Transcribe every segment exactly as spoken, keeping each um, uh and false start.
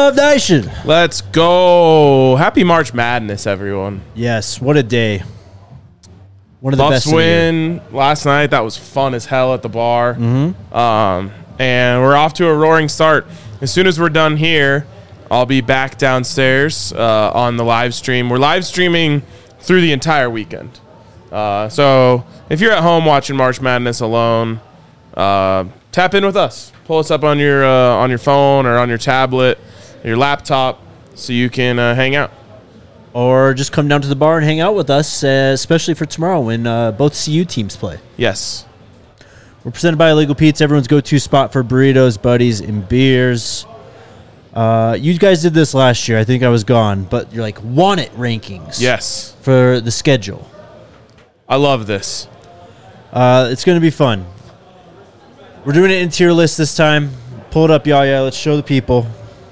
Love Nation. Let's go. Happy March Madness, everyone. Yes, what a day. One of the Buffs best of the win last night. That was fun as hell at the bar. Mm-hmm. Um, and we're off to a roaring start. As soon as we're done here, I'll be back downstairs uh, on the live stream. We're live streaming through the entire weekend. Uh, so if you're at home watching March Madness alone, uh, tap in with us. Pull us up on your uh, on your phone or on your tablet, your laptop, so you can uh, hang out. Or just come down to the bar and hang out with us, uh, especially for tomorrow when uh, both C U teams play. Yes. We're presented by Illegal Pete's, everyone's go-to spot for burritos, buddies, and beers. Uh, you guys did this last year. I think I was gone, but you're like, want it rankings. Yes. For the schedule. I love this. Uh, it's going to be fun. We're doing it in tier list this time. Pull it up, Yaya. Let's show the people.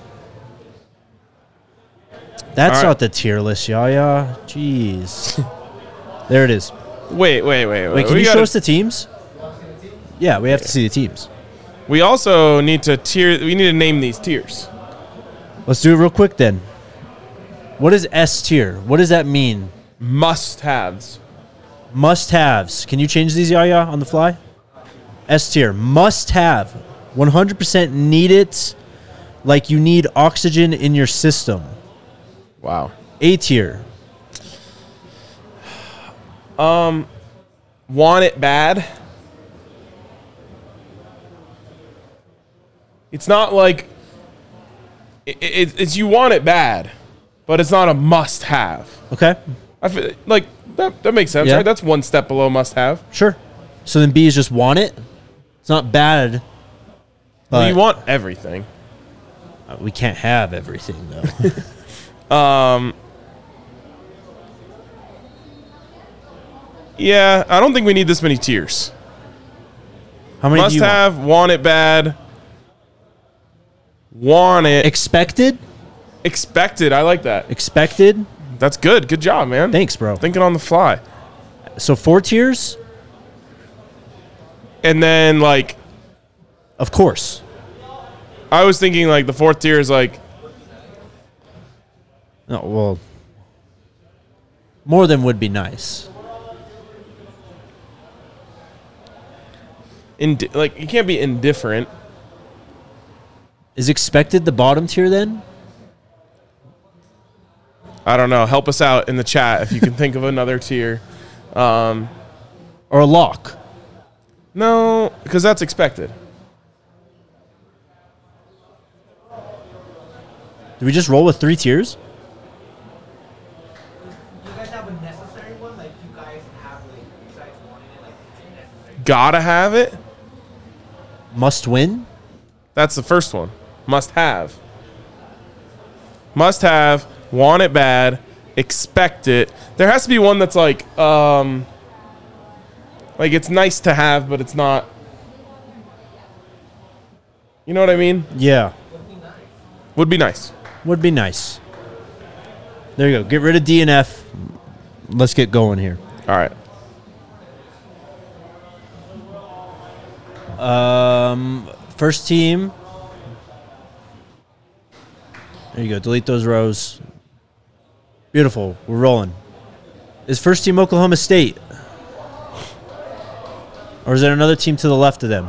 That's right. not the tier list, Yaya. Jeez. There it is. Wait, wait, wait, wait. Wait, can we you gotta, show us the teams? Yeah, we have to see the teams. We also need to tier. We need to name these tiers. Let's do it real quick then. What is S tier? What does that mean? Must-haves. Must-haves. Can you change these, Yaya, on the fly? S tier. Must-have. one hundred percent need it like you need oxygen in your system. Wow. A tier. Um, want it bad. It's not like it, it, it's you want it bad, but it's not a must-have. Okay. I feel like that. That makes sense, Yeah. right? That's one step below must-have. Sure. So then B is just want it. It's not bad. Well, But you want everything. we can't have everything, though. Um. Yeah, I don't think we need this many tiers. How many Must do you have, want? want it bad, want it, Expected? expected. I like that. Expected? That's good. Good job, man. Thanks, bro. Thinking on the fly. So four tiers? And then, like, Of course. I was thinking, like, the fourth tier is, like, No, well, more than would be nice. indi- like you can't be indifferent. Is expected the bottom tier then? I don't know. Help us out in the chat if you can think of another tier. Um, Or a lock? no, because that's expected. Do we just roll with three tiers? You guys have a necessary one? Like, you guys have, like, besides wanting it, like, necessary? Gotta have it. Must win? That's the first one. Must have. Must have. Want it bad. Expect it. There has to be one that's like, um, like it's nice to have, but it's not. You know what I mean? Yeah. Would be nice. Would be nice. There you go. Get rid of D and F. Let's get going here. All right. Um, first team. There you go. Delete those rows. Beautiful. We're rolling. Is first team Oklahoma State? Or is there another team to the left of them?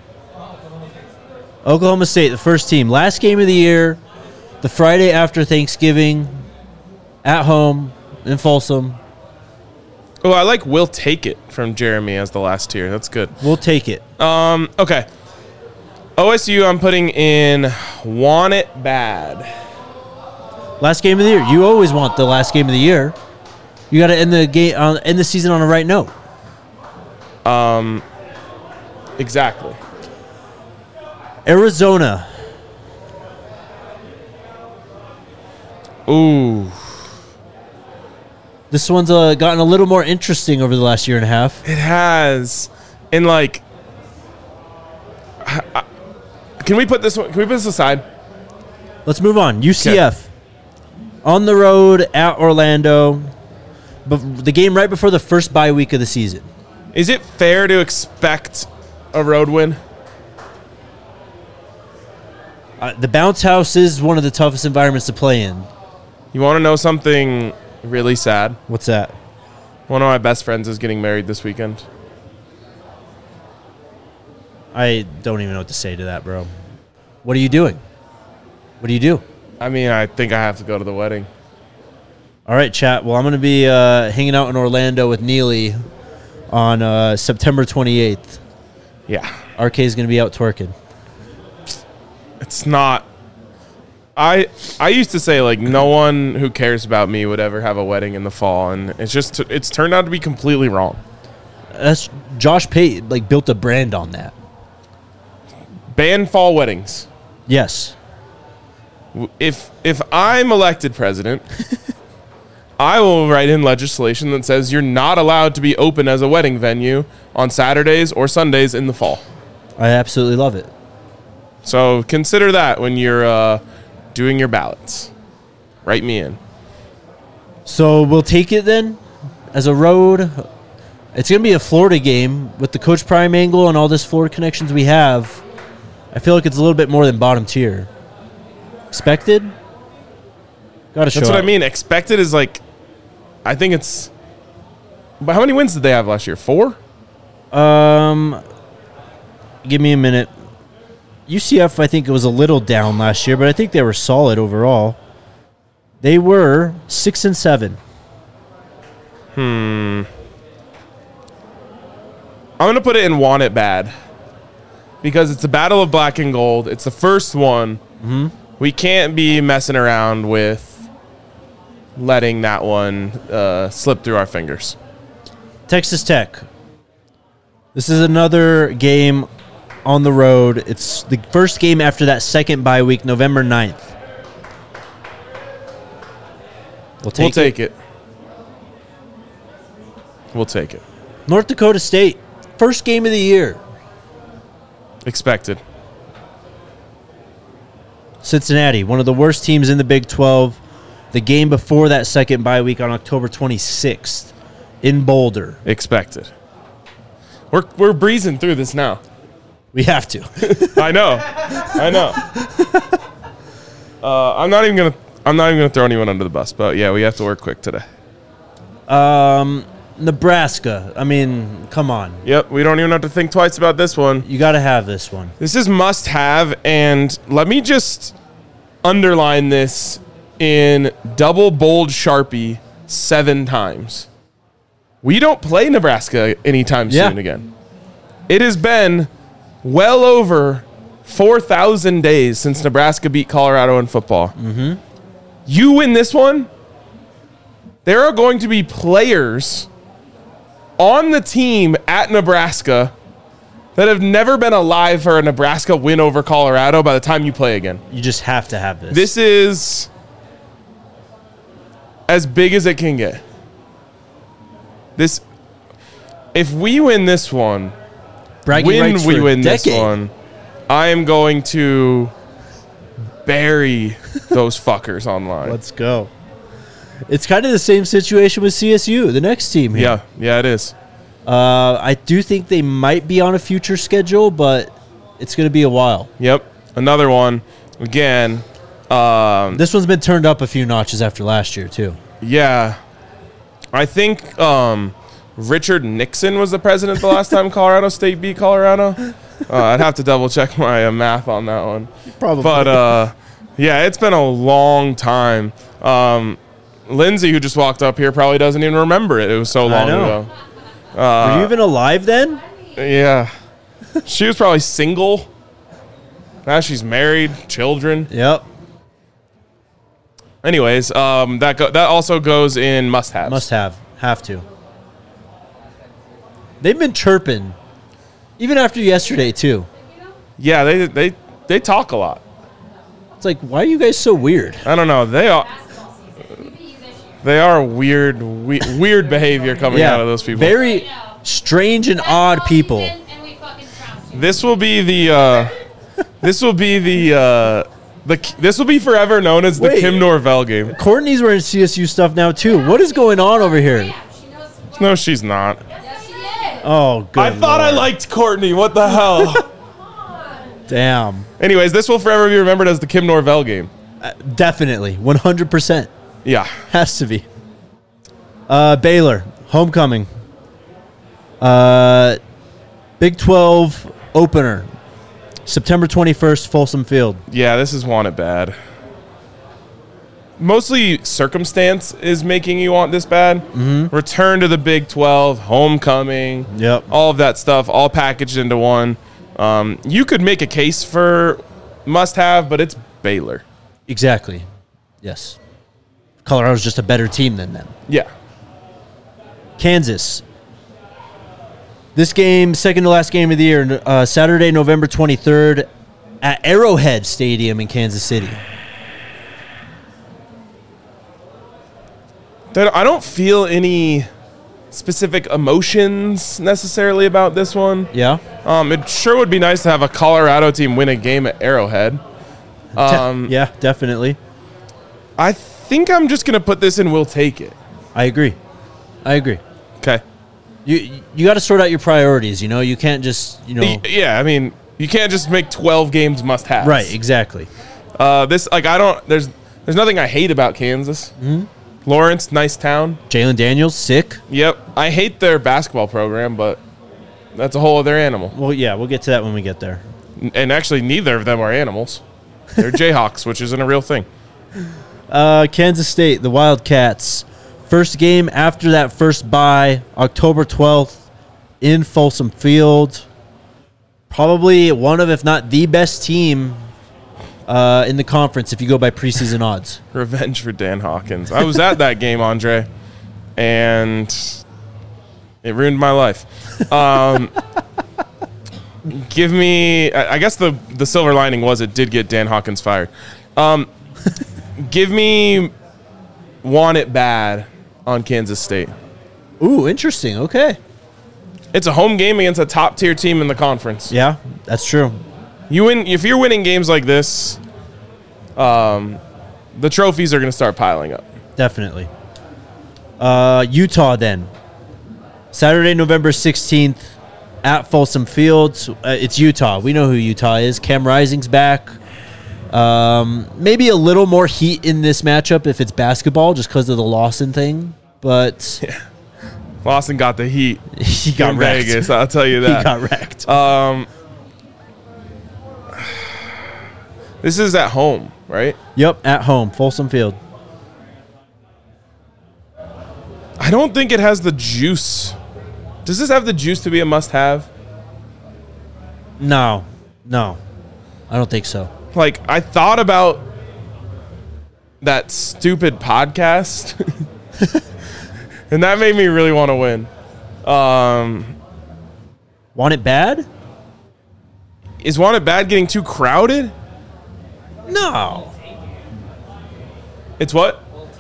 Oklahoma State, the first team. Last game of the year, the Friday after Thanksgiving, at home in Folsom. Oh, I like "We'll Take It" from Jeremy as the last tier. That's good. We'll take it. Um. Okay. O S U, I'm putting in "Want It Bad." Last game of the year. You always want the last game of the year. You got to end the game, uh, end the season on a right note. Um. Exactly. Arizona. Ooh. This one's uh, gotten a little more interesting over the last year and a half. It has. And like, I, I, can we put this one? Can we put this aside? Let's move on. U C F. On the road at Orlando. But the game right before the first bye week of the season. Is it fair to expect a road win? Uh, the bounce house is one of the toughest environments to play in. You want to know something really sad? What's that? One of my best friends is getting married this weekend. I don't even know what to say to that, bro. What are you doing? What do you do? I mean, I think I have to go to the wedding. All right, chat. Well, I'm going to be uh, hanging out in Orlando with Neely on uh, September twenty-eighth. Yeah. R K is going to be out twerking. It's not. I I used to say, like, no one who cares about me would ever have a wedding in the fall, and it's just it's turned out to be completely wrong. That's Josh Pate like built a brand on that. Ban fall weddings. Yes. If if I'm elected president, I will write in legislation that says you're not allowed to be open as a wedding venue on Saturdays or Sundays in the fall. I absolutely love it. So consider that when you're uh, doing your ballots. Write me in. So we'll take it then as a road. It's going to be a Florida game with the Coach Prime angle and all this Florida connections we have. I feel like it's a little bit more than bottom tier. Expected? Got to show That's what up. I mean. Expected is like, I think it's. But how many wins did they have last year? Four? Um, give me a minute. U C F, I think it was a little down last year, but I think they were solid overall. They were six and seven. Hmm. I'm going to put it in want it bad. Because it's a battle of black and gold. It's the first one. Mm-hmm. We can't be messing around with letting that one uh, slip through our fingers. Texas Tech. This is another game on the road. It's the first game after that second bye week, November ninth. We'll take, we'll it. take it. We'll take it. North Dakota State. First game of the year. Expected. Cincinnati, one of the worst teams in the Big twelve. The game before that second bye week on October twenty-sixth in Boulder. Expected. We're we're breezing through this now. We have to. I know. I know. Uh, I'm not even gonna I'm not even gonna throw anyone under the bus, but yeah, we have to work quick today. Um, Nebraska. I mean, come on. Yep, we don't even have to think twice about this one. You got to have this one. This is must have, and let me just underline this in double bold Sharpie seven times. We don't play Nebraska anytime Yeah. soon again. It has been well over four thousand days since Nebraska beat Colorado in football. Mm-hmm. You win this one, there are going to be players on the team at Nebraska that have never been alive for a Nebraska win over Colorado by the time you play again. You just have to have this. This is as big as it can get. This, if we win this one, Bragging when rights we for a win this decade. one, I am going to bury those fuckers online. Let's go. It's kind of the same situation with C S U, the next team here. Yeah, yeah, it is. Uh, I do think they might be on a future schedule, but it's going to be a while. Yep, another one. Again, um, This one's been turned up a few notches after last year, too. yeah. I think um, Richard Nixon was the president the last time Colorado State beat Colorado. Uh, I'd have to double check my uh, math on that one. Probably. But, uh, yeah, it's been a long time. Um, Lindsay, who just walked up here, probably doesn't even remember it. It was so long know. ago. Were you even alive then? Yeah. She was probably single. Now she's married, children. Yep. Anyways, um, that go- that also goes in must-haves. Must have. Have to. They've been chirping, even after yesterday, too. Yeah, they they they talk a lot. It's like, why are you guys so weird? I don't know. They are they are weird we- weird behavior coming out of those people. Very strange and odd people. This will be the uh, this will be the uh, the this will be forever known as the Wait. Kim Norvell game. Courtney's wearing C S U stuff now, too. What is going on over here? No, she's not. Oh, good I thought I Lord. liked Courtney. What the hell? Damn. Anyways, this will forever be remembered as the Kim Norvell game. Uh, definitely. one hundred percent. Yeah. Has to be. Uh, Baylor, homecoming. Uh, Big twelve opener. September twenty-first, Folsom Field. Yeah, this is want it bad. Mostly circumstance is making you want this bad. Mm-hmm. Return to the Big twelve, homecoming, Yep. all of that stuff, all packaged into one. Um, you could make a case for must-have, but it's Baylor. Exactly. Yes. Colorado's just a better team than them. Yeah. Kansas. This game, second to last game of the year, uh, Saturday, November twenty-third, at Arrowhead Stadium in Kansas City. I don't feel any specific emotions necessarily about this one. Yeah. Um, it sure would be nice to have a Colorado team win a game at Arrowhead. Um, yeah, definitely. I think I'm just going to put this in we'll take it. I agree. I agree. Okay. You you got to sort out your priorities, you know? You can't just, you know. Yeah, I mean, you can't just make twelve games must-haves. Right, exactly. Uh, this, like, I don't, there's there's nothing I hate about Kansas. Mm-hmm. Lawrence, nice town. Jalen Daniels, sick. Yep. I hate their basketball program, but that's a whole other animal. Well, yeah, we'll get to that when we get there. And actually, neither of them are animals. They're Jayhawks, which isn't a real thing. Uh, Kansas State, the Wildcats. First game after that first bye, October twelfth, in Folsom Field. Probably one of, if not the best team uh, in the conference if you go by preseason odds. Revenge for Dan Hawkins. I was at that game, Andre, and it ruined my life. Um, give me, I I guess the, the silver lining was it did get Dan Hawkins fired. Um, give me want it bad on Kansas State. Ooh, interesting. Okay. It's a home game against a top-tier team in the conference. Yeah, that's true. You win if you're winning games like this, um, the trophies are going to start piling up. Definitely. Uh, Utah then. Saturday, November sixteenth at Folsom Field. Uh, it's Utah. We know who Utah is. Cam Rising's back. Um, maybe a little more heat in this matchup if it's basketball just because of the Lawson thing. But Yeah. Lawson got the heat he got in wrecked. Vegas, I'll tell you that. He got wrecked. Um, this is at home, right? Yep, at home, Folsom Field. I don't think it has the juice. Does this have the juice to be a must-have? No, no, I don't think so. Like, I thought about that stupid podcast, and that made me really want to win. Um, Want it bad? is Want It Bad getting too crowded? No, It's what?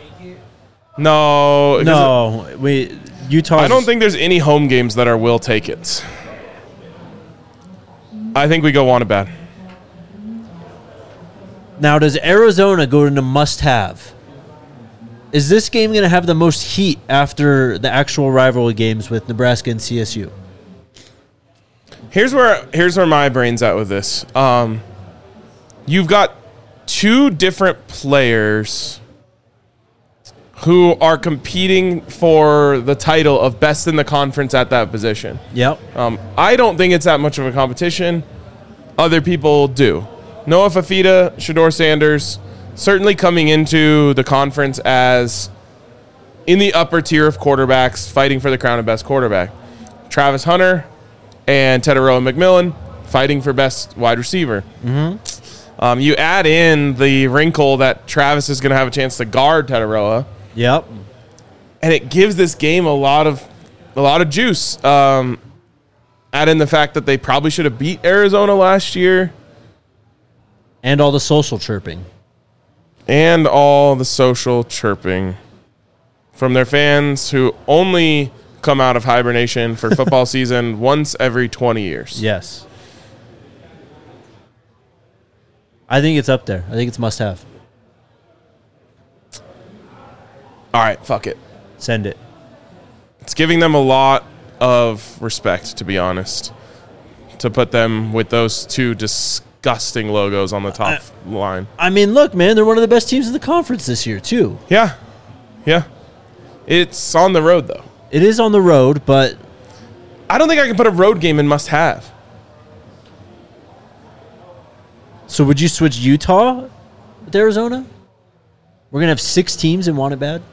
No. 'cause no. We Utah. I don't think there's any home games that are will take it. I think we go Want It Bad. Now, does Arizona go into must-have? Is this game going to have the most heat after the actual rivalry games with Nebraska and C S U? Here's where here's where my brain's at with this. Um, you've got two different players who are competing for the title of best in the conference at that position. Yep. Um, I don't think it's that much of a competition. Other people do. Noah Fafita, Shedeur Sanders, certainly coming into the conference as in the upper tier of quarterbacks fighting for the crown of best quarterback. Travis Hunter and Tedoroa McMillan fighting for best wide receiver. Mm-hmm. Um, you add in the wrinkle that Travis is going to have a chance to guard Tedoroa, Yep. and it gives this game a lot of a lot of juice. Um, add in the fact that they probably should have beat Arizona last year. And all the social chirping. And all the social chirping from their fans who only come out of hibernation for football season once every twenty years. Yes. I think it's up there. I think it's must-have. All right, fuck it. Send it. It's giving them a lot of respect, to be honest, to put them with those two disgusting disgusting logos on the top line. I mean, look, man, they're one of the best teams in the conference this year, too. Yeah. Yeah. It's on the road, though. It is on the road, but I don't think I can put a road game in must-have. so would you switch Utah with Arizona? We're going to have six teams and want it bad?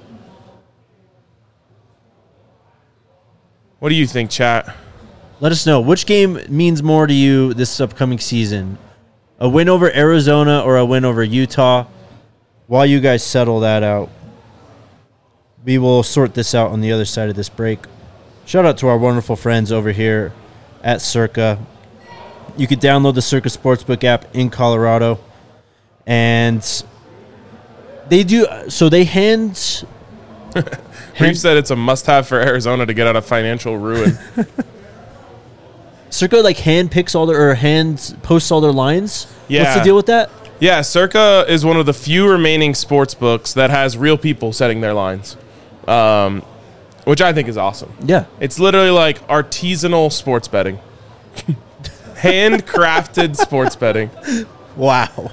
What do you think, chat? Let us know. Which game means more to you this upcoming season? A win over Arizona or a win over Utah? While you guys settle that out, we will sort this out on the other side of this break. Shout out to our wonderful friends over here at Circa. You could download the Circa Sportsbook app in Colorado. And they do, so they hand... Reeve said it's a must-have for Arizona to get out of financial ruin. Circa like hand picks all their, or hand posts all their lines? Yeah. What's the deal with that? Yeah, Circa is one of the few remaining sports books that has real people setting their lines, um, which I think is awesome. Yeah. It's literally like artisanal sports betting. Handcrafted sports betting. Wow.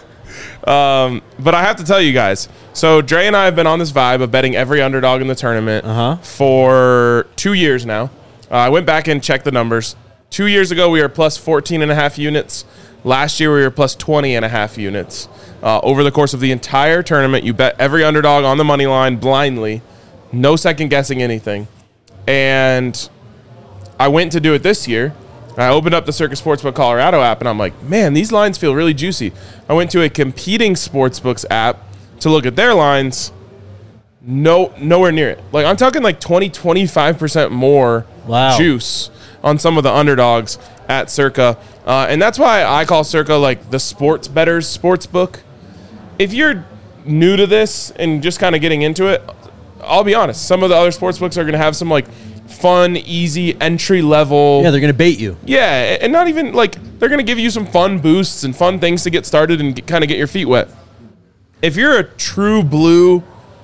Um, but I have to tell you guys, so Dre and I have been on this vibe of betting every underdog in the tournament Uh-huh. for two years now. Uh, I went back and checked the numbers. Two years ago, we were plus fourteen and a half units. Last year, we were plus twenty and a half units. Uh, over the course of the entire tournament, you bet every underdog on the money line blindly, no second guessing anything. And I went to do it this year. I opened up the Circa Sportsbook Colorado app, and I'm like, man, these lines feel really juicy. I went to a competing sportsbooks app to look at their lines. No, nowhere near it. Like, I'm talking like twenty, twenty-five percent more Wow. juice on some of the underdogs at Circa. Uh, and that's why I call Circa like the sports bettors sports book. If you're new to this and just kind of getting into it, I'll be honest, some of the other sports books are going to have some like fun, easy, entry level. Yeah, they're going to bait you. Yeah, and not even like they're going to give you some fun boosts and fun things to get started and kind of get your feet wet. If you're a true blue,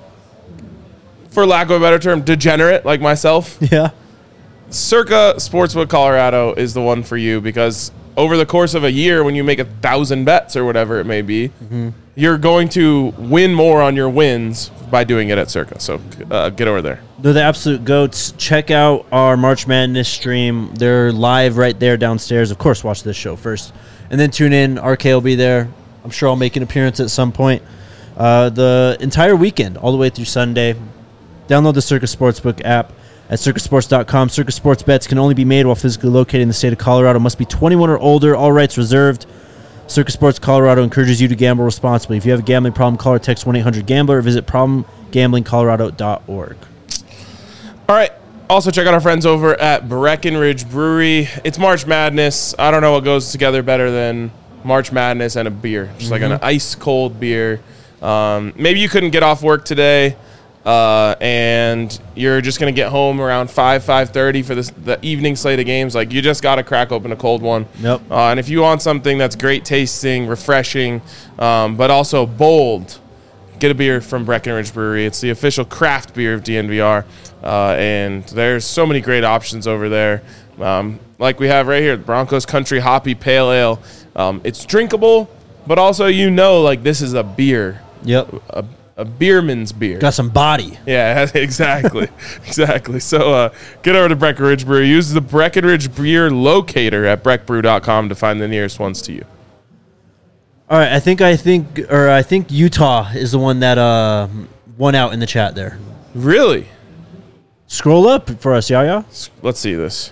for lack of a better term, degenerate like myself, Yeah. Circa Sportsbook Colorado is the one for you, because over the course of a year, when you make a thousand bets or whatever it may be, mm-hmm. you're going to win more on your wins by doing it at Circa. So uh, get over there. They're the absolute goats. Check out our March Madness stream. They're live right there downstairs. Of course, watch this show first. And then tune in. R K will be there. I'm sure I'll make an appearance at some point. Uh, the entire weekend, all the way through Sunday. Download the Circa Sportsbook app at circa sports dot com. Circa Sports bets can only be made while physically located in the state of Colorado. Must be twenty-one or older. All rights reserved. Circa Sports Colorado encourages you to gamble responsibly. If you have a gambling problem, call or text one eight hundred gambler or visit problem gambling colorado dot org. All right. Also, check out our friends over at Breckenridge Brewery. It's March Madness. I don't know what goes together better than March Madness and a beer. Just mm-hmm. like an ice-cold beer. Um, maybe you couldn't get off work today. Uh, and you're just going to get home around five, five thirty for this, the evening slate of games. Like, you just got to crack open a cold one. Yep. Uh, and if you want something that's great tasting, refreshing, um, but also bold, get a beer from Breckenridge Brewery. It's the official craft beer of D N V R. Uh, and there's so many great options over there. Um, like we have right here, the Broncos Country Hoppy Pale Ale. Um, it's drinkable, but also, you know, like, this is a beer. Yep. A, A beerman's beer. Got some body. Yeah, exactly. exactly. So uh, get over to Breckenridge Brewery. Use the Breckenridge Beer Locator at breck brew dot com to find the nearest ones to you. All right, I think I think or I think Utah is the one that uh, won out in the chat there. Really? Scroll up for us, Yaya. Let's see this.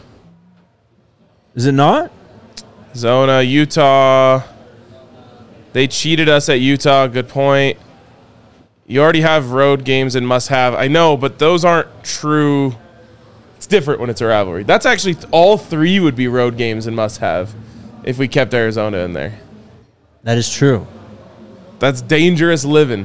Is it not? Zona, Utah. They cheated us at Utah. Good point. You already have road games and must-have. I know, but those aren't true. It's different when it's a rivalry. That's actually all three would be road games and must-have if we kept Arizona in there. That is true. That's dangerous living.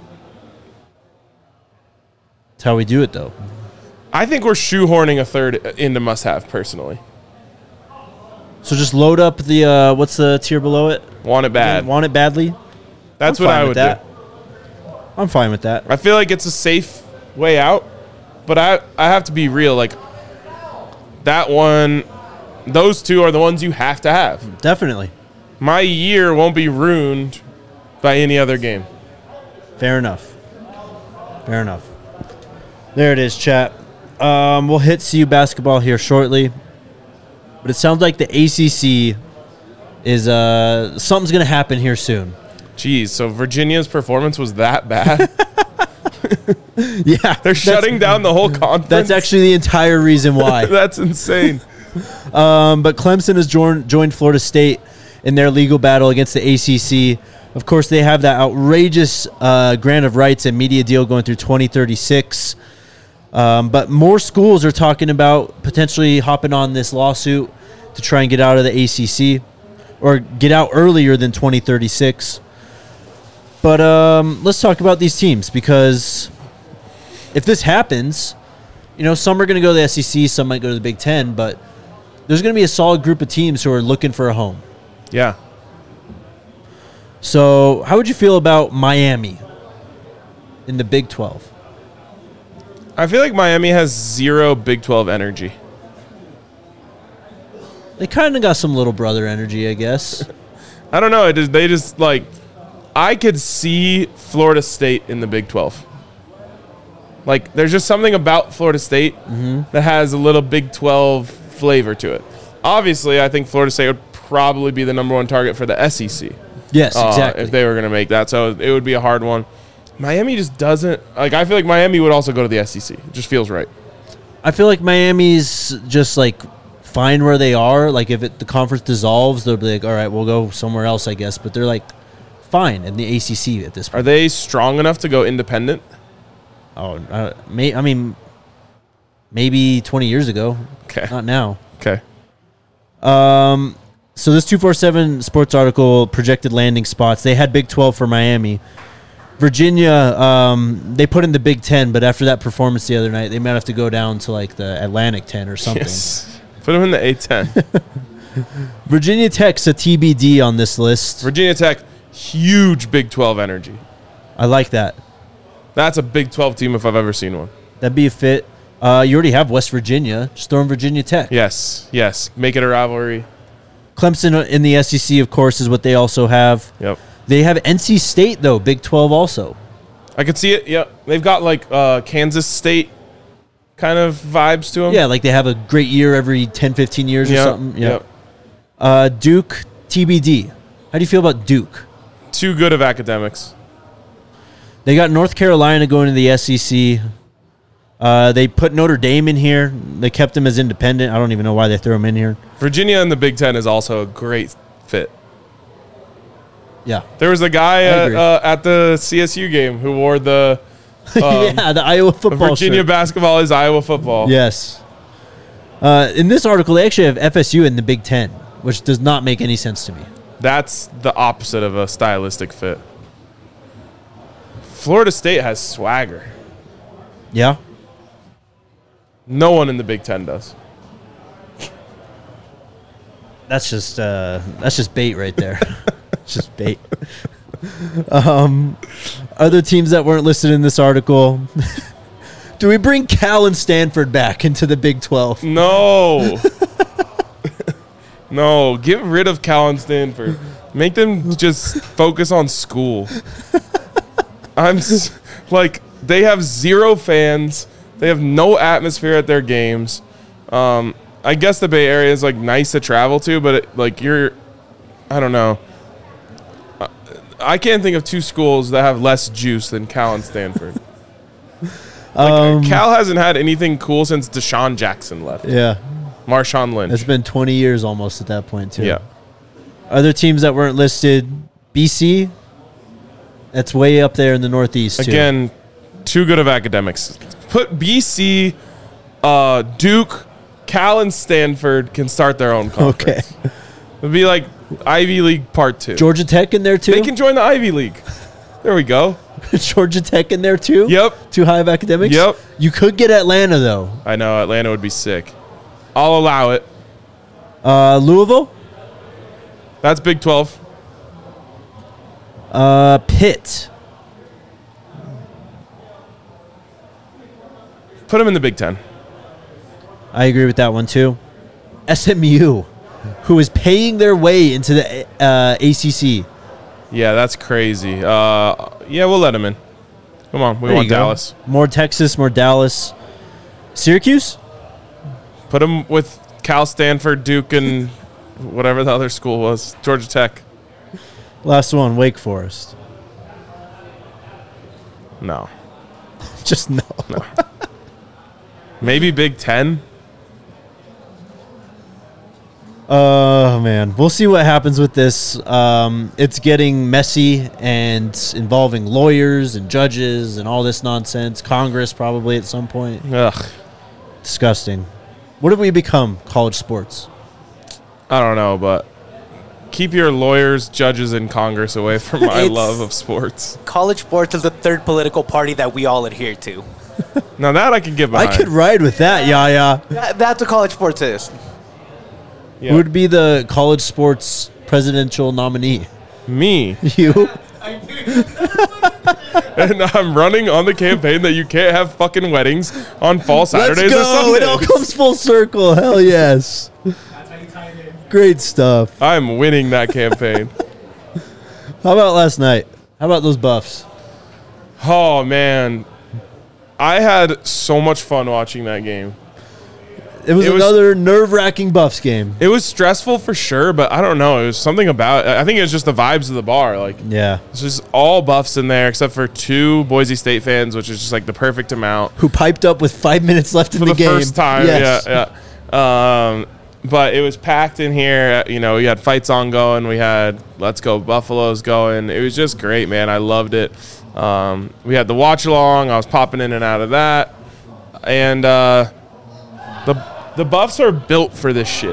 That's how we do it, though. I think we're shoehorning a third into must-have, personally. So just load up the, uh, what's the tier below it? Want it bad. Want it badly? That's I'm what fine I with would that. do. I'm fine with that. I feel like it's a safe way out, but I I have to be real. Like, that one, those two are the ones you have to have. Definitely. My year won't be ruined by any other game. Fair enough. Fair enough. There it is, chat. Um, we'll hit C U basketball here shortly. But it sounds like the A C C is uh, something's going to happen here soon. Jeez, so Virginia's performance was that bad? Yeah. They're shutting down the whole conference? That's actually the entire reason why. That's insane. Um, but Clemson has joined, joined Florida State in their legal battle against the A C C. Of course, they have that outrageous uh, grant of rights and media deal going through twenty thirty-six. Um, but more schools are talking about potentially hopping on this lawsuit to try and get out of the A C C or get out earlier than twenty thirty-six. But um, let's talk about these teams, because if this happens, you know, some are going to go to the S E C, some might go to the Big Ten, but there's going to be a solid group of teams who are looking for a home. Yeah. So how would you feel about Miami in the Big twelve? I feel like Miami has zero Big twelve energy. They kind of got some little brother energy, I guess. I don't know. It just, they just, like, I could see Florida State in the Big twelve. Like, there's just something about Florida State Mm-hmm. that has a little Big twelve flavor to it. Obviously, I think Florida State would probably be the number one target for the S E C. Yes, uh, exactly. if they were going to make that. So it would be a hard one. Miami just doesn't, like, I feel like Miami would also go to the S E C. It just feels right. I feel like Miami's just like fine where they are. Like if it, the conference dissolves, they'll be like, all right, we'll go somewhere else, I guess. But they're like fine in the A C C at this point. Are they strong enough to go independent? Oh, uh, may, I mean, maybe twenty years ago. Okay. Not now. Okay. Um, so this two forty-seven Sports article projected landing spots. They had Big twelve for Miami. Virginia, um, they put in the Big Ten, but after that performance the other night, they might have to go down to like the Atlantic ten or something. Yes. Put them in the A ten. Virginia Tech's a T B D on this list. Virginia Tech, huge Big twelve energy. I like that. That's a Big twelve team if I've ever seen one. That'd be a fit. Uh, you already have West Virginia. Just throw in Virginia Tech. Yes, yes. Make it a rivalry. Clemson in the S E C, of course, is what they also have. Yep. They have N C State, though, Big twelve also. I could see it. Yep. They've got like uh, Kansas State kind of vibes to them. Yeah, like they have a great year every ten, fifteen years or Yep, something. Yeah. yep. Uh, Duke, T B D. How do you feel about Duke? Too good of academics. They got North Carolina going to the S E C. Uh, they put Notre Dame in here. They kept them as independent. I don't even know why they threw them in here. Virginia in the Big Ten is also a great fit. Yeah. There was a guy at, agree. uh, at the C S U game who wore the um, yeah, the Iowa football Virginia shirt. basketball is Iowa football. Yes. Uh, in this article, they actually have F S U in the Big Ten, which does not make any sense to me. That's the opposite of a stylistic fit. Florida State has swagger. Yeah? No one in the Big Ten does. That's just uh, that's just bait right there. It's just bait. Um, other teams that weren't listed in this article. Do we bring Cal and Stanford back into the Big twelve? No. No, get rid of Cal and Stanford. Make them just focus on school. I'm s- like, they have zero fans. They have no atmosphere at their games. Um, I guess the Bay Area is like nice to travel to, but it, like you're, I don't know. I- I can't think of two schools that have less juice than Cal and Stanford. Like, Um, Cal hasn't had anything cool since Deshaun Jackson left. Yeah. Marshawn Lynch. It's been twenty years almost at that point, too. Yeah. Other teams that weren't listed, B C, that's way up there in the Northeast, too. Again, too good of academics. Put B C, uh, Duke, Cal, and Stanford can start their own conference. Okay. It'd be like Ivy League Part Two. Georgia Tech in there, too? They can join the Ivy League. There we go. Georgia Tech in there, too? Yep. Too high of academics? Yep. You could get Atlanta, though. I know Atlanta would be sick. I'll allow it. Uh, Louisville? That's Big twelve. Uh, Pitt. Put them in the Big Ten. I agree with that one, too. S M U. who is paying their way into the uh, A C C. Yeah, that's crazy. Uh, yeah, we'll let him in. Come on, we There want you go. Dallas. More Texas, more Dallas. Syracuse? Put him with Cal, Stanford, Duke, and whatever the other school was. Georgia Tech. Last one, Wake Forest. No. Just no. Maybe Big Ten. Oh, man. We'll see what happens with this. Um, it's getting messy and involving lawyers and judges and all this nonsense. Congress probably at some point. Ugh. Disgusting. What have we become, college sports? I don't know, but keep your lawyers, judges, and Congress away from my It's- love of sports. College sports is the third political party that we all adhere to. Now that I can get behind. I could ride with that, Yaya. That, that's what college sports is. Yeah. Who would be the college sports presidential nominee? Me. You? And I'm running on the campaign that you can't have fucking weddings on fall Saturdays Let's or go. Sundays. It all comes full circle. Hell yes. That's how you tie it in. Great stuff. I'm winning that campaign. How about last night? How about those Buffs? Oh, man. I had so much fun watching that game. It was It was- another nerve-wracking Buffs game. It was stressful for sure, but I don't know. It was something about I think it was just the vibes of the bar. Like, Yeah. it's just all Buffs in there except for two Boise State fans, which is just like the perfect amount. Who piped up with five minutes left in For the, the game. first time, Yes. yeah, yeah. Um, but it was packed in here. You know, we had fights on going. We had Let's Go Buffaloes going. It was just great, man. I loved it. Um, we had the watch along. I was popping in and out of that, and uh, the the Buffs are built for this shit.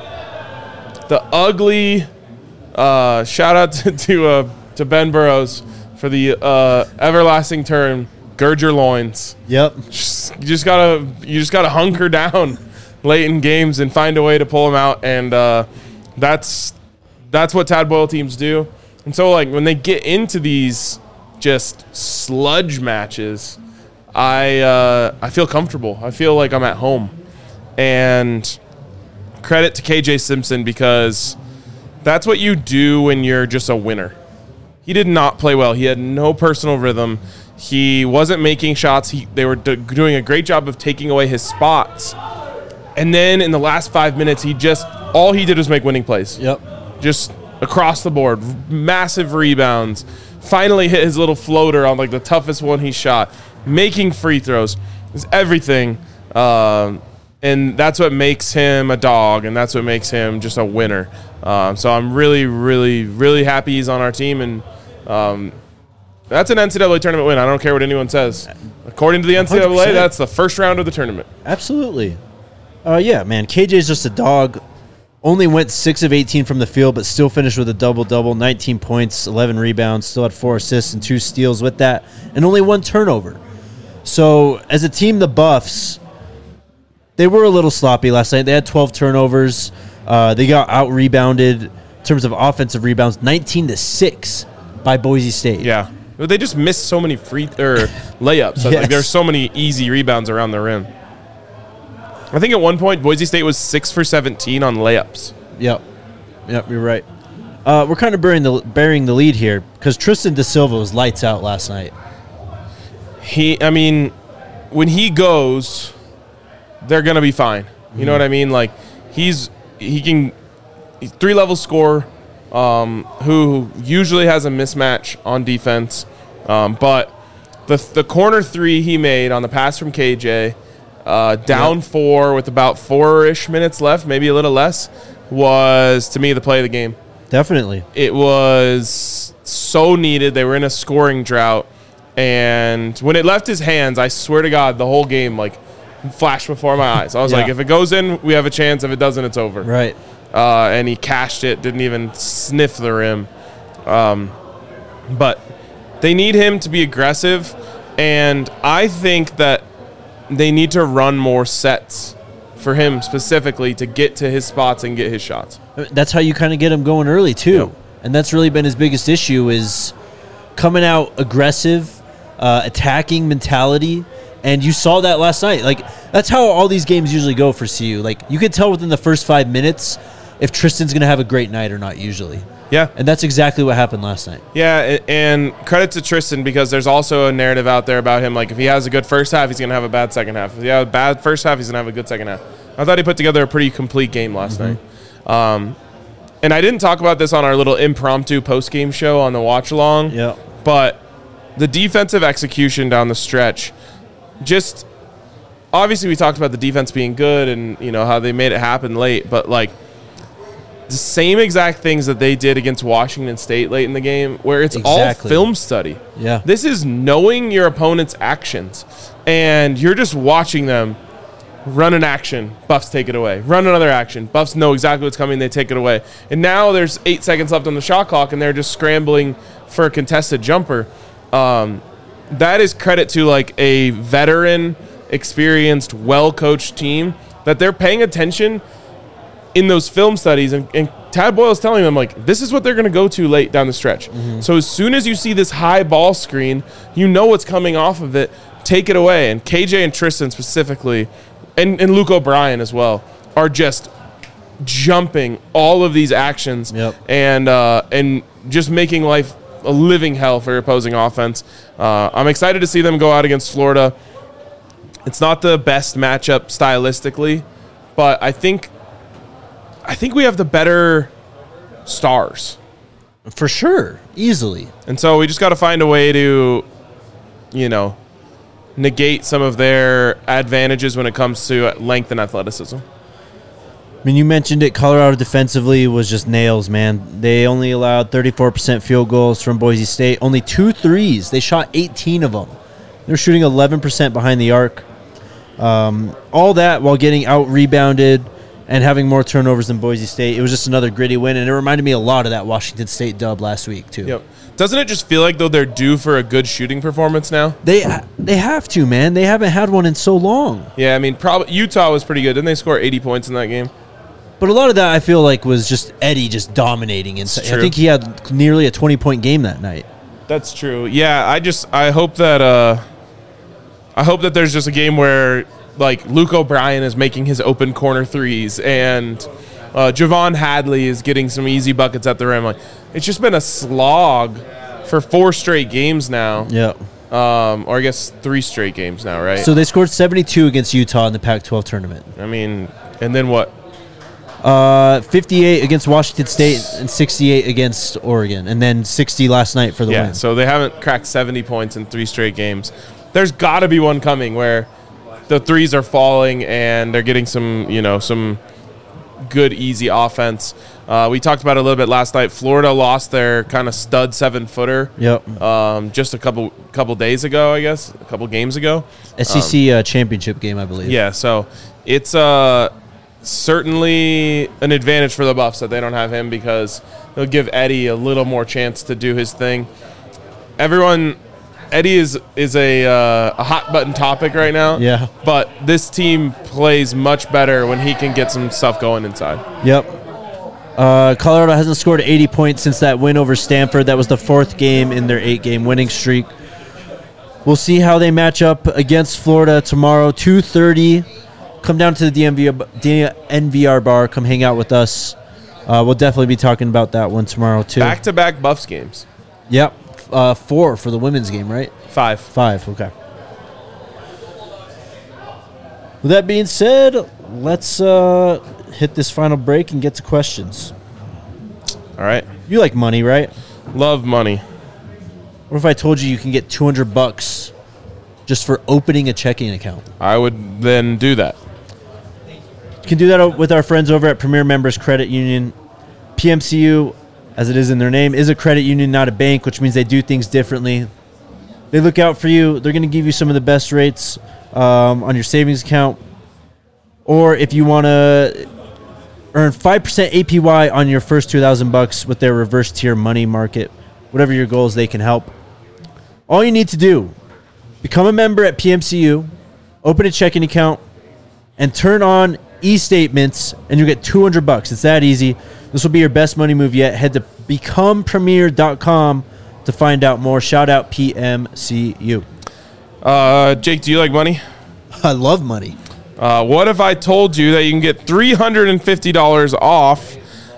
The ugly. Uh, shout out to to, uh, to Ben Burrows for the uh, everlasting term. Gird your loins. Yep. Just- you just gotta you just gotta hunker down late in games and find a way to pull them out, and uh, that's that's what Tad Boyle teams do. And so, like, when they get into these just sludge matches, I uh, I feel comfortable. I feel like I'm at home. And credit to K J Simpson, because that's what you do when you're just a winner. He did not play well. He had no personal rhythm. He wasn't making shots. He, they were d- doing a great job of taking away his spots. And then in the last five minutes, he just, all he did was make winning plays. Yep. Just across the board. Massive rebounds. Finally hit his little floater on like the toughest one he shot. Making free throws. It's everything. Um, and that's what makes him a dog, and that's what makes him just a winner. Um, so I'm really, really, really happy he's on our team, and um, that's an N C double A tournament win. I don't care what anyone says. According to the N C double A, one hundred percent. that's the first round of the tournament. Absolutely. Uh, yeah, man. K J's just a dog. Only went six of eighteen from the field, but still finished with a double-double, nineteen points, eleven rebounds, still had four assists and two steals with that, and only one turnover. So, as a team, the Buffs, they were a little sloppy last night. They had twelve turnovers. Uh, they got out-rebounded in terms of offensive rebounds, nineteen to six by Boise State. Yeah. But they just missed so many free or layups. Yes. Like, there's so many easy rebounds around the rim. I think at one point, Boise State was six for seventeen on layups. Yep. Yep, you're right. Uh, we're kind of bearing the, bearing the lead here because Tristan Da Silva was lights out last night. He, I mean, when he goes, they're gonna be fine. You know what I mean? Like, he's he can he's three level scorer, um, who usually has a mismatch on defense, um, but the the corner three he made on the pass from K J, uh, down Yep. four with about four ish minutes left, maybe a little less, was to me the play of the game. Definitely. It was so needed. They were in a scoring drought. And when it left his hands, I swear to God, the whole game, like, flashed before my eyes. I was Yeah. like, if it goes in, we have a chance. If it doesn't, it's over. Right. Uh, and he cashed it, didn't even sniff the rim. Um, but they need him to be aggressive. And I think that they need to run more sets for him specifically to get to his spots and get his shots. That's how you kind of get him going early, too. Yep. And that's really been his biggest issue is coming out aggressive, uh, attacking mentality. And you saw that last night. Like, that's how all these games usually go for C U. Like, you could tell within the first five minutes if Tristan's going to have a great night or not usually. Yeah. And that's exactly what happened last night. Yeah, a- and credit to Tristan because there's also a narrative out there about him. Like, if he has a good first half, he's going to have a bad second half. If he has a bad first half, he's going to have a good second half. I thought he put together a pretty complete game last Mm-hmm. night. Um, and I didn't talk about this on our little impromptu post-game show on the watch-along. Yeah. But the defensive execution down the stretch, just obviously we talked about the defense being good and, you know, how they made it happen late. But, like, the same exact things that they did against Washington State late in the game, where it's Exactly. all film study. Yeah. This is knowing your opponent's actions, and you're just watching them run an action, Buffs take it away. Run another action, Buffs know exactly what's coming, they take it away. And now there's eight seconds left on the shot clock, and they're just scrambling for a contested jumper. Um, that is credit to, like, a veteran, experienced, well-coached team that they're paying attention in those film studies, and, and Tad Boyle's telling them, like, this is what they're going to go to late down the stretch. Mm-hmm. So as soon as you see this high ball screen, you know what's coming off of it, take it away. And K J and Tristan specifically, and, and Luke O'Brien as well, are just jumping all of these actions Yep. and uh, and just making life a living hell for opposing offense. Uh, I'm excited to see them go out against Florida. It's not the best matchup stylistically, but I think I think we have the better stars. For sure. Easily. And so we just got to find a way to, you know, negate some of their advantages when it comes to length and athleticism. I mean, you mentioned it. Colorado defensively was just nails, man. They only allowed thirty-four percent field goals from Boise State. Only two threes. They shot eighteen of them. They're shooting eleven percent behind the arc. Um, all that while getting out-rebounded and having more turnovers than Boise State. It was just another gritty win, and it reminded me a lot of that Washington State dub last week, too. Yep. Doesn't it just feel like, though, they're due for a good shooting performance now? They they have to, man. They haven't had one in so long. Yeah, I mean, probably Utah was pretty good. Didn't they score eighty points in that game? But a lot of that, I feel like, was just Eddie just dominating. And I true. think he had nearly a twenty-point game that night. That's true. Yeah, I just I hope that uh, I hope that there's just a game where, like, Luke O'Brien is making his open corner threes and uh, Javon Hadley is getting some easy buckets at the rim. Like, it's just been a slog for four straight games now. Yeah. Um, or I guess three straight games now, right? So they scored seventy-two against Utah in the Pac twelve tournament. I mean, and then what? Uh, fifty-eight against Washington State and sixty-eight against Oregon, and then sixty last night for the Yeah, win. so they haven't cracked seventy points in three straight games. There's got to be one coming where the threes are falling and they're getting some, you know, some good, easy offense. Uh, we talked about it a little bit last night. Florida lost their kind of stud seven-footer Yep. um, just a couple couple days ago, I guess, a couple games ago. S E C uh, championship game, I believe. Yeah, so it's uh, certainly an advantage for the Buffs that they don't have him because they'll give Eddie a little more chance to do his thing. Everyone, Eddie is is a uh, a hot button topic right now. Yeah. But this team plays much better when he can get some stuff going inside. Yep. Uh, Colorado hasn't scored eighty points since that win over Stanford. That was the fourth game in their eight-game winning streak. We'll see how they match up against Florida tomorrow, two thirty. Come down to the D M V, D N V R bar. Come hang out with us. Uh, we'll definitely be talking about that one tomorrow, too. Back-to-back Buffs games. Yep. Uh, four for the women's game, right? Five. Five, okay. With that being said, let's uh, hit this final break and get to questions. All right. You like money, right? Love money. What if I told you you can get two hundred bucks just for opening a checking account? I would then do that. You can do that with our friends over at Premier Members Credit Union. P M C U, as it is in their name, is a credit union, not a bank, which means they do things differently. They look out for you. They're going to give you some of the best rates um, on your savings account. Or if you want to earn five percent A P Y on your first two thousand bucks with their reverse tier money market, whatever your goals, they can help. All you need to do, become a member at P M C U, open a checking account, and turn on e-statements, and you'll get two hundred bucks. It's that easy. This will be your best money move yet. Head to become premier dot com to find out more. Shout out P M C U. Uh, Jake, do you like money? I love money. Uh, what if I told you that you can get three hundred fifty dollars off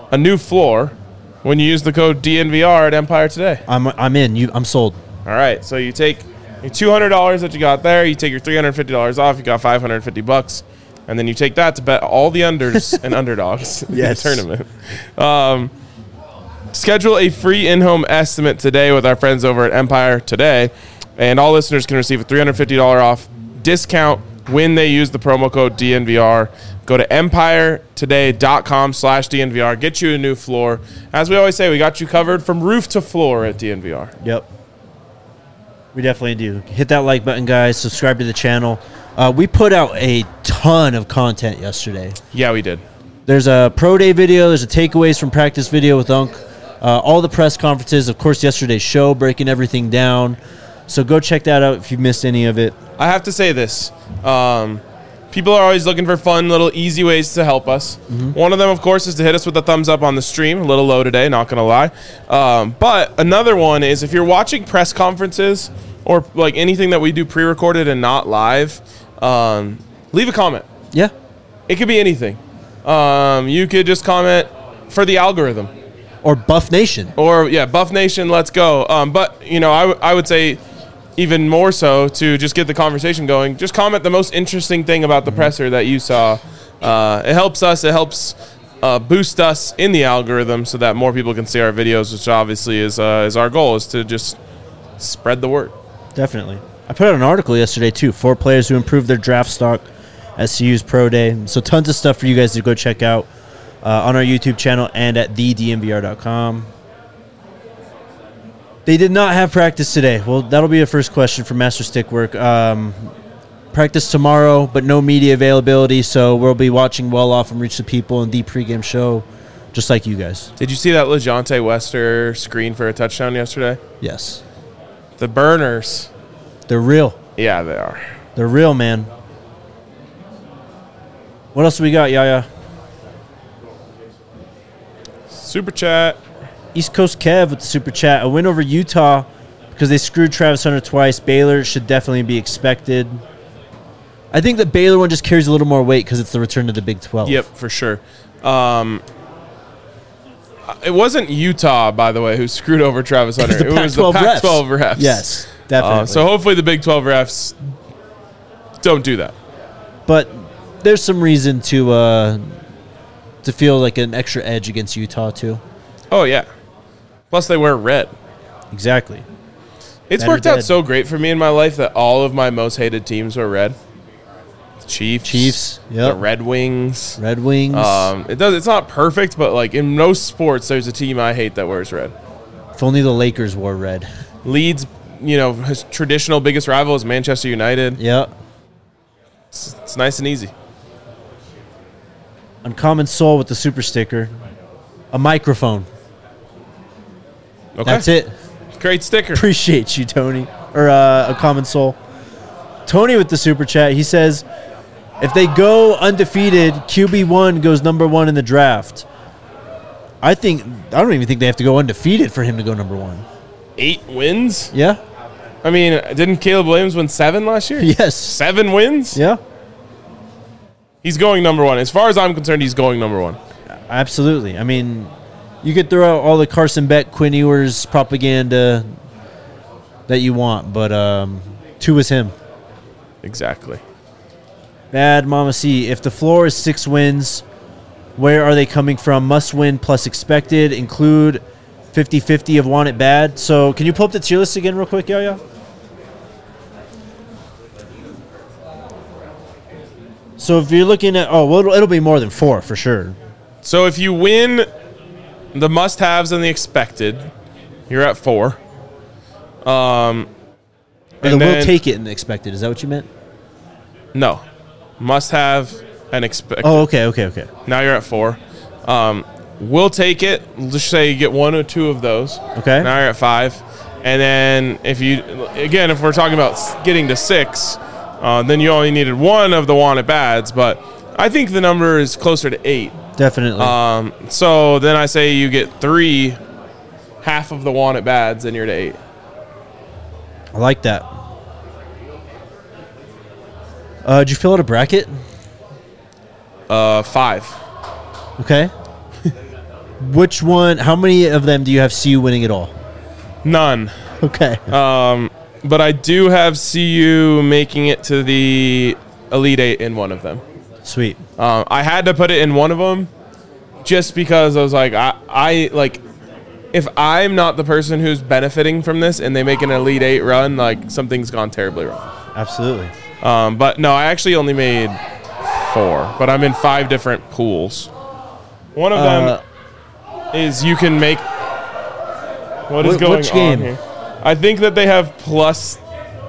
a new floor when you use the code D N V R at Empire today. I'm I'm in. You I'm sold. All right, so you take your two hundred dollars that you got there, you take your three hundred fifty dollars off, you got five hundred fifty bucks, and then you take that to bet all the unders and underdogs Yes. in the tournament. Um, schedule a free in-home estimate today with our friends over at Empire today, and all listeners can receive a three hundred fifty dollars off discount when they use the promo code D N V R. Go to empiretoday.com slash DNVR. Get you a new floor. As we always say, we got you covered from roof to floor at D N V R. Yep. We definitely do. Hit that like button, guys. Subscribe to the channel. Uh, we put out a ton of content yesterday. Yeah, we did. There's a pro day video. There's a takeaways from practice video with Unk. Uh, all the press conferences. Of course, yesterday's show, breaking everything down. So go check that out if you missed any of it. I have to say this. Um, people are always looking for fun, little easy ways to help us. Mm-hmm. One of them, of course, is to hit us with a thumbs up on the stream. A little low today, not going to lie. Um, but another one is if you're watching press conferences or like anything that we do pre-recorded and not live, um, leave a comment. Yeah. It could be anything. Um, you could just comment for the algorithm. Or Buff Nation. Or, yeah, Buff Nation, let's go. Um, but, you know, I, w- I would say even more so to just get the conversation going, just comment the most interesting thing about the mm-hmm. presser that you saw. Uh, it helps us. It helps uh, boost us in the algorithm so that more people can see our videos, which obviously is uh, is our goal, is to just spread the word. Definitely. I put out an article yesterday, too. Four players who improved their draft stock at C U's Pro Day. So tons of stuff for you guys to go check out uh, on our YouTube channel and at the D N V R dot com. They did not have practice today. Well, that'll be a first question for Master Stickwork. Um, practice tomorrow, but no media availability, so we'll be watching well off and Reach the People in the pregame show, just like you guys. Did you see that LeJontay Wester screen for a touchdown yesterday? Yes. The burners. They're real. Yeah, they are. They're real, man. What else do we got, Yaya? Super chat. East Coast Kev with the super chat. A win over Utah because they screwed Travis Hunter twice. Baylor should definitely be expected. I think the Baylor one just carries a little more weight because it's the return to the Big twelve. Yep, for sure. Um, it wasn't Utah, by the way, who screwed over Travis Hunter. It was the It was the Pac twelve Pac twelve refs. Yes, definitely. Uh, so hopefully the Big twelve refs don't do that. But there's some reason to uh, to feel like an extra edge against Utah, too. Oh, yeah. Plus, they wear red. Exactly. It's Better worked out dead. so great for me in my life that all of my most hated teams were red. The Chiefs. Chiefs, The yep. Red Wings. Red Wings. Um, it does. It's not perfect, but like in most sports, there's a team I hate that wears red. If only the Lakers wore red. Leeds, you know, his traditional biggest rival is Manchester United. Yep. It's, it's nice and easy. Uncommon Soul with the super sticker. A microphone. Okay. That's it. Great sticker. Appreciate you, Tony. Or uh, a common soul. Tony with the super chat. He says, if they go undefeated, Q B one goes number one in the draft. I think I don't even think they have to go undefeated for him to go number one. Eight wins? Yeah. I mean, didn't Caleb Williams win seven last year? Yes. Seven wins? Yeah. He's going number one. As far as I'm concerned, he's going number one. Absolutely. I mean, you could throw out all the Carson Beck, Quinn Ewers propaganda that you want, but um, two is him. Exactly. Bad Mama C. If the floor is six wins, where are they coming from? Must win plus expected. Include fifty-fifty of want it bad. So can you pull up the tier list again real quick, Yaya? So if you're looking at, oh, well, it'll, it'll be more than four for sure. So if you win the must-haves and the expected, you're at four. Um, Or and the then, will take it and the expected. Is that what you meant? No. Must-have and expected. Oh, okay, okay, okay. Now you're at four. Um, we'll take it. Let's say you get one or two of those. Okay. Now you're at five. And then if you, again, if we're talking about s- getting to six, uh, then you only needed one of the wanted bads. But I think the number is closer to eight. Definitely. Um, so then I say you get three, half of the wanted bads, and you're to eight. I like that. Uh, did you fill out a bracket? Uh, five. Okay. Which one? How many of them do you have C U winning it all? None. Okay. Um, but I do have C U making it to the Elite Eight in one of them. Sweet. Um, I had to put it in one of them just because I was like, I, I like, if I'm not the person who's benefiting from this and they make an Elite Eight run, like something's gone terribly wrong. Absolutely. Um, but no, I actually only made four, but I'm in five different pools. One of them Uh, is you can make. What is Wh- going which on game? here? I think that they have plus.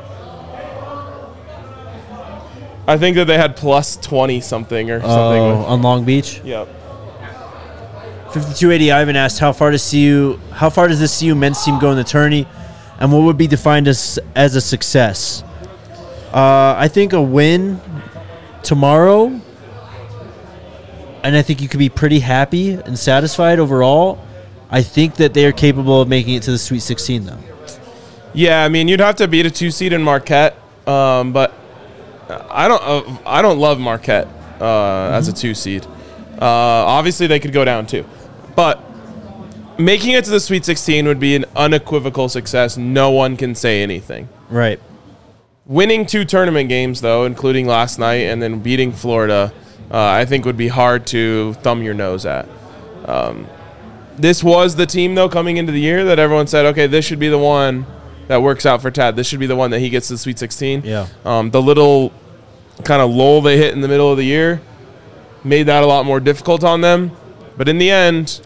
I think that they had plus twenty something or something. Oh, With, on Long Beach. yep. fifty-two eighty Ivan asked, how far does C U, how far does this C U men's team go in the tourney, and what would be defined as as a success? Uh, I think a win tomorrow, and I think you could be pretty happy and satisfied overall. I think that they are capable of making it to the Sweet sixteen, though. Yeah, I mean, you'd have to beat a two seed in Marquette, um, but I don't. Uh, I don't love Marquette uh, mm-hmm. as a two seed. Uh, obviously, they could go down too, but making it to the Sweet sixteen would be an unequivocal success. No one can say anything. Right. Winning two tournament games, though, including last night, and then beating Florida, uh, I think would be hard to thumb your nose at. Um, this was the team, though, coming into the year that everyone said, okay, this should be the one that works out for Tad. This should be the one that he gets to the Sweet sixteen. Yeah. Um, the little kind of lull they hit in the middle of the year made that a lot more difficult on them. But in the end,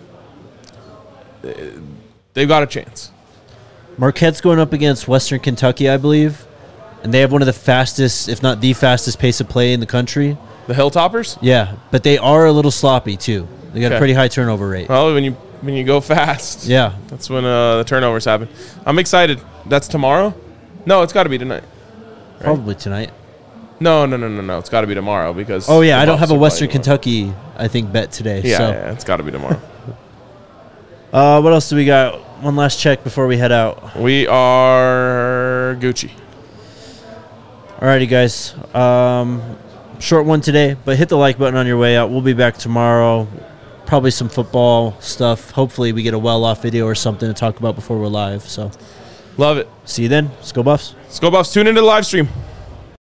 they've got a chance. Marquette's going up against Western Kentucky, I believe, and they have one of the fastest, if not the fastest, pace of play in the country. The Hilltoppers? Yeah, but they are a little sloppy too. They got Okay. a pretty high turnover rate. Well, when you when you go fast, Yeah, that's when uh, the turnovers happen. I'm excited. That's tomorrow? No, it's got to be tonight. probably tonight. No, no, no, no, no. It's got to be tomorrow because. Oh yeah, the I don't Buffs have a are Western playing tomorrow. Kentucky, I think, bet today. Yeah, so. yeah, it's got to be tomorrow. Uh, what else do we got? One last check before we head out. We are Gucci. Alrighty, guys. Um, short one today, but hit the like button on your way out. We'll be back tomorrow. Probably some football stuff. Hopefully, we get a well-off video or something to talk about before we're live. So, Love it. see you then. Let's go Buffs. Let's go Buffs. Tune into the live stream.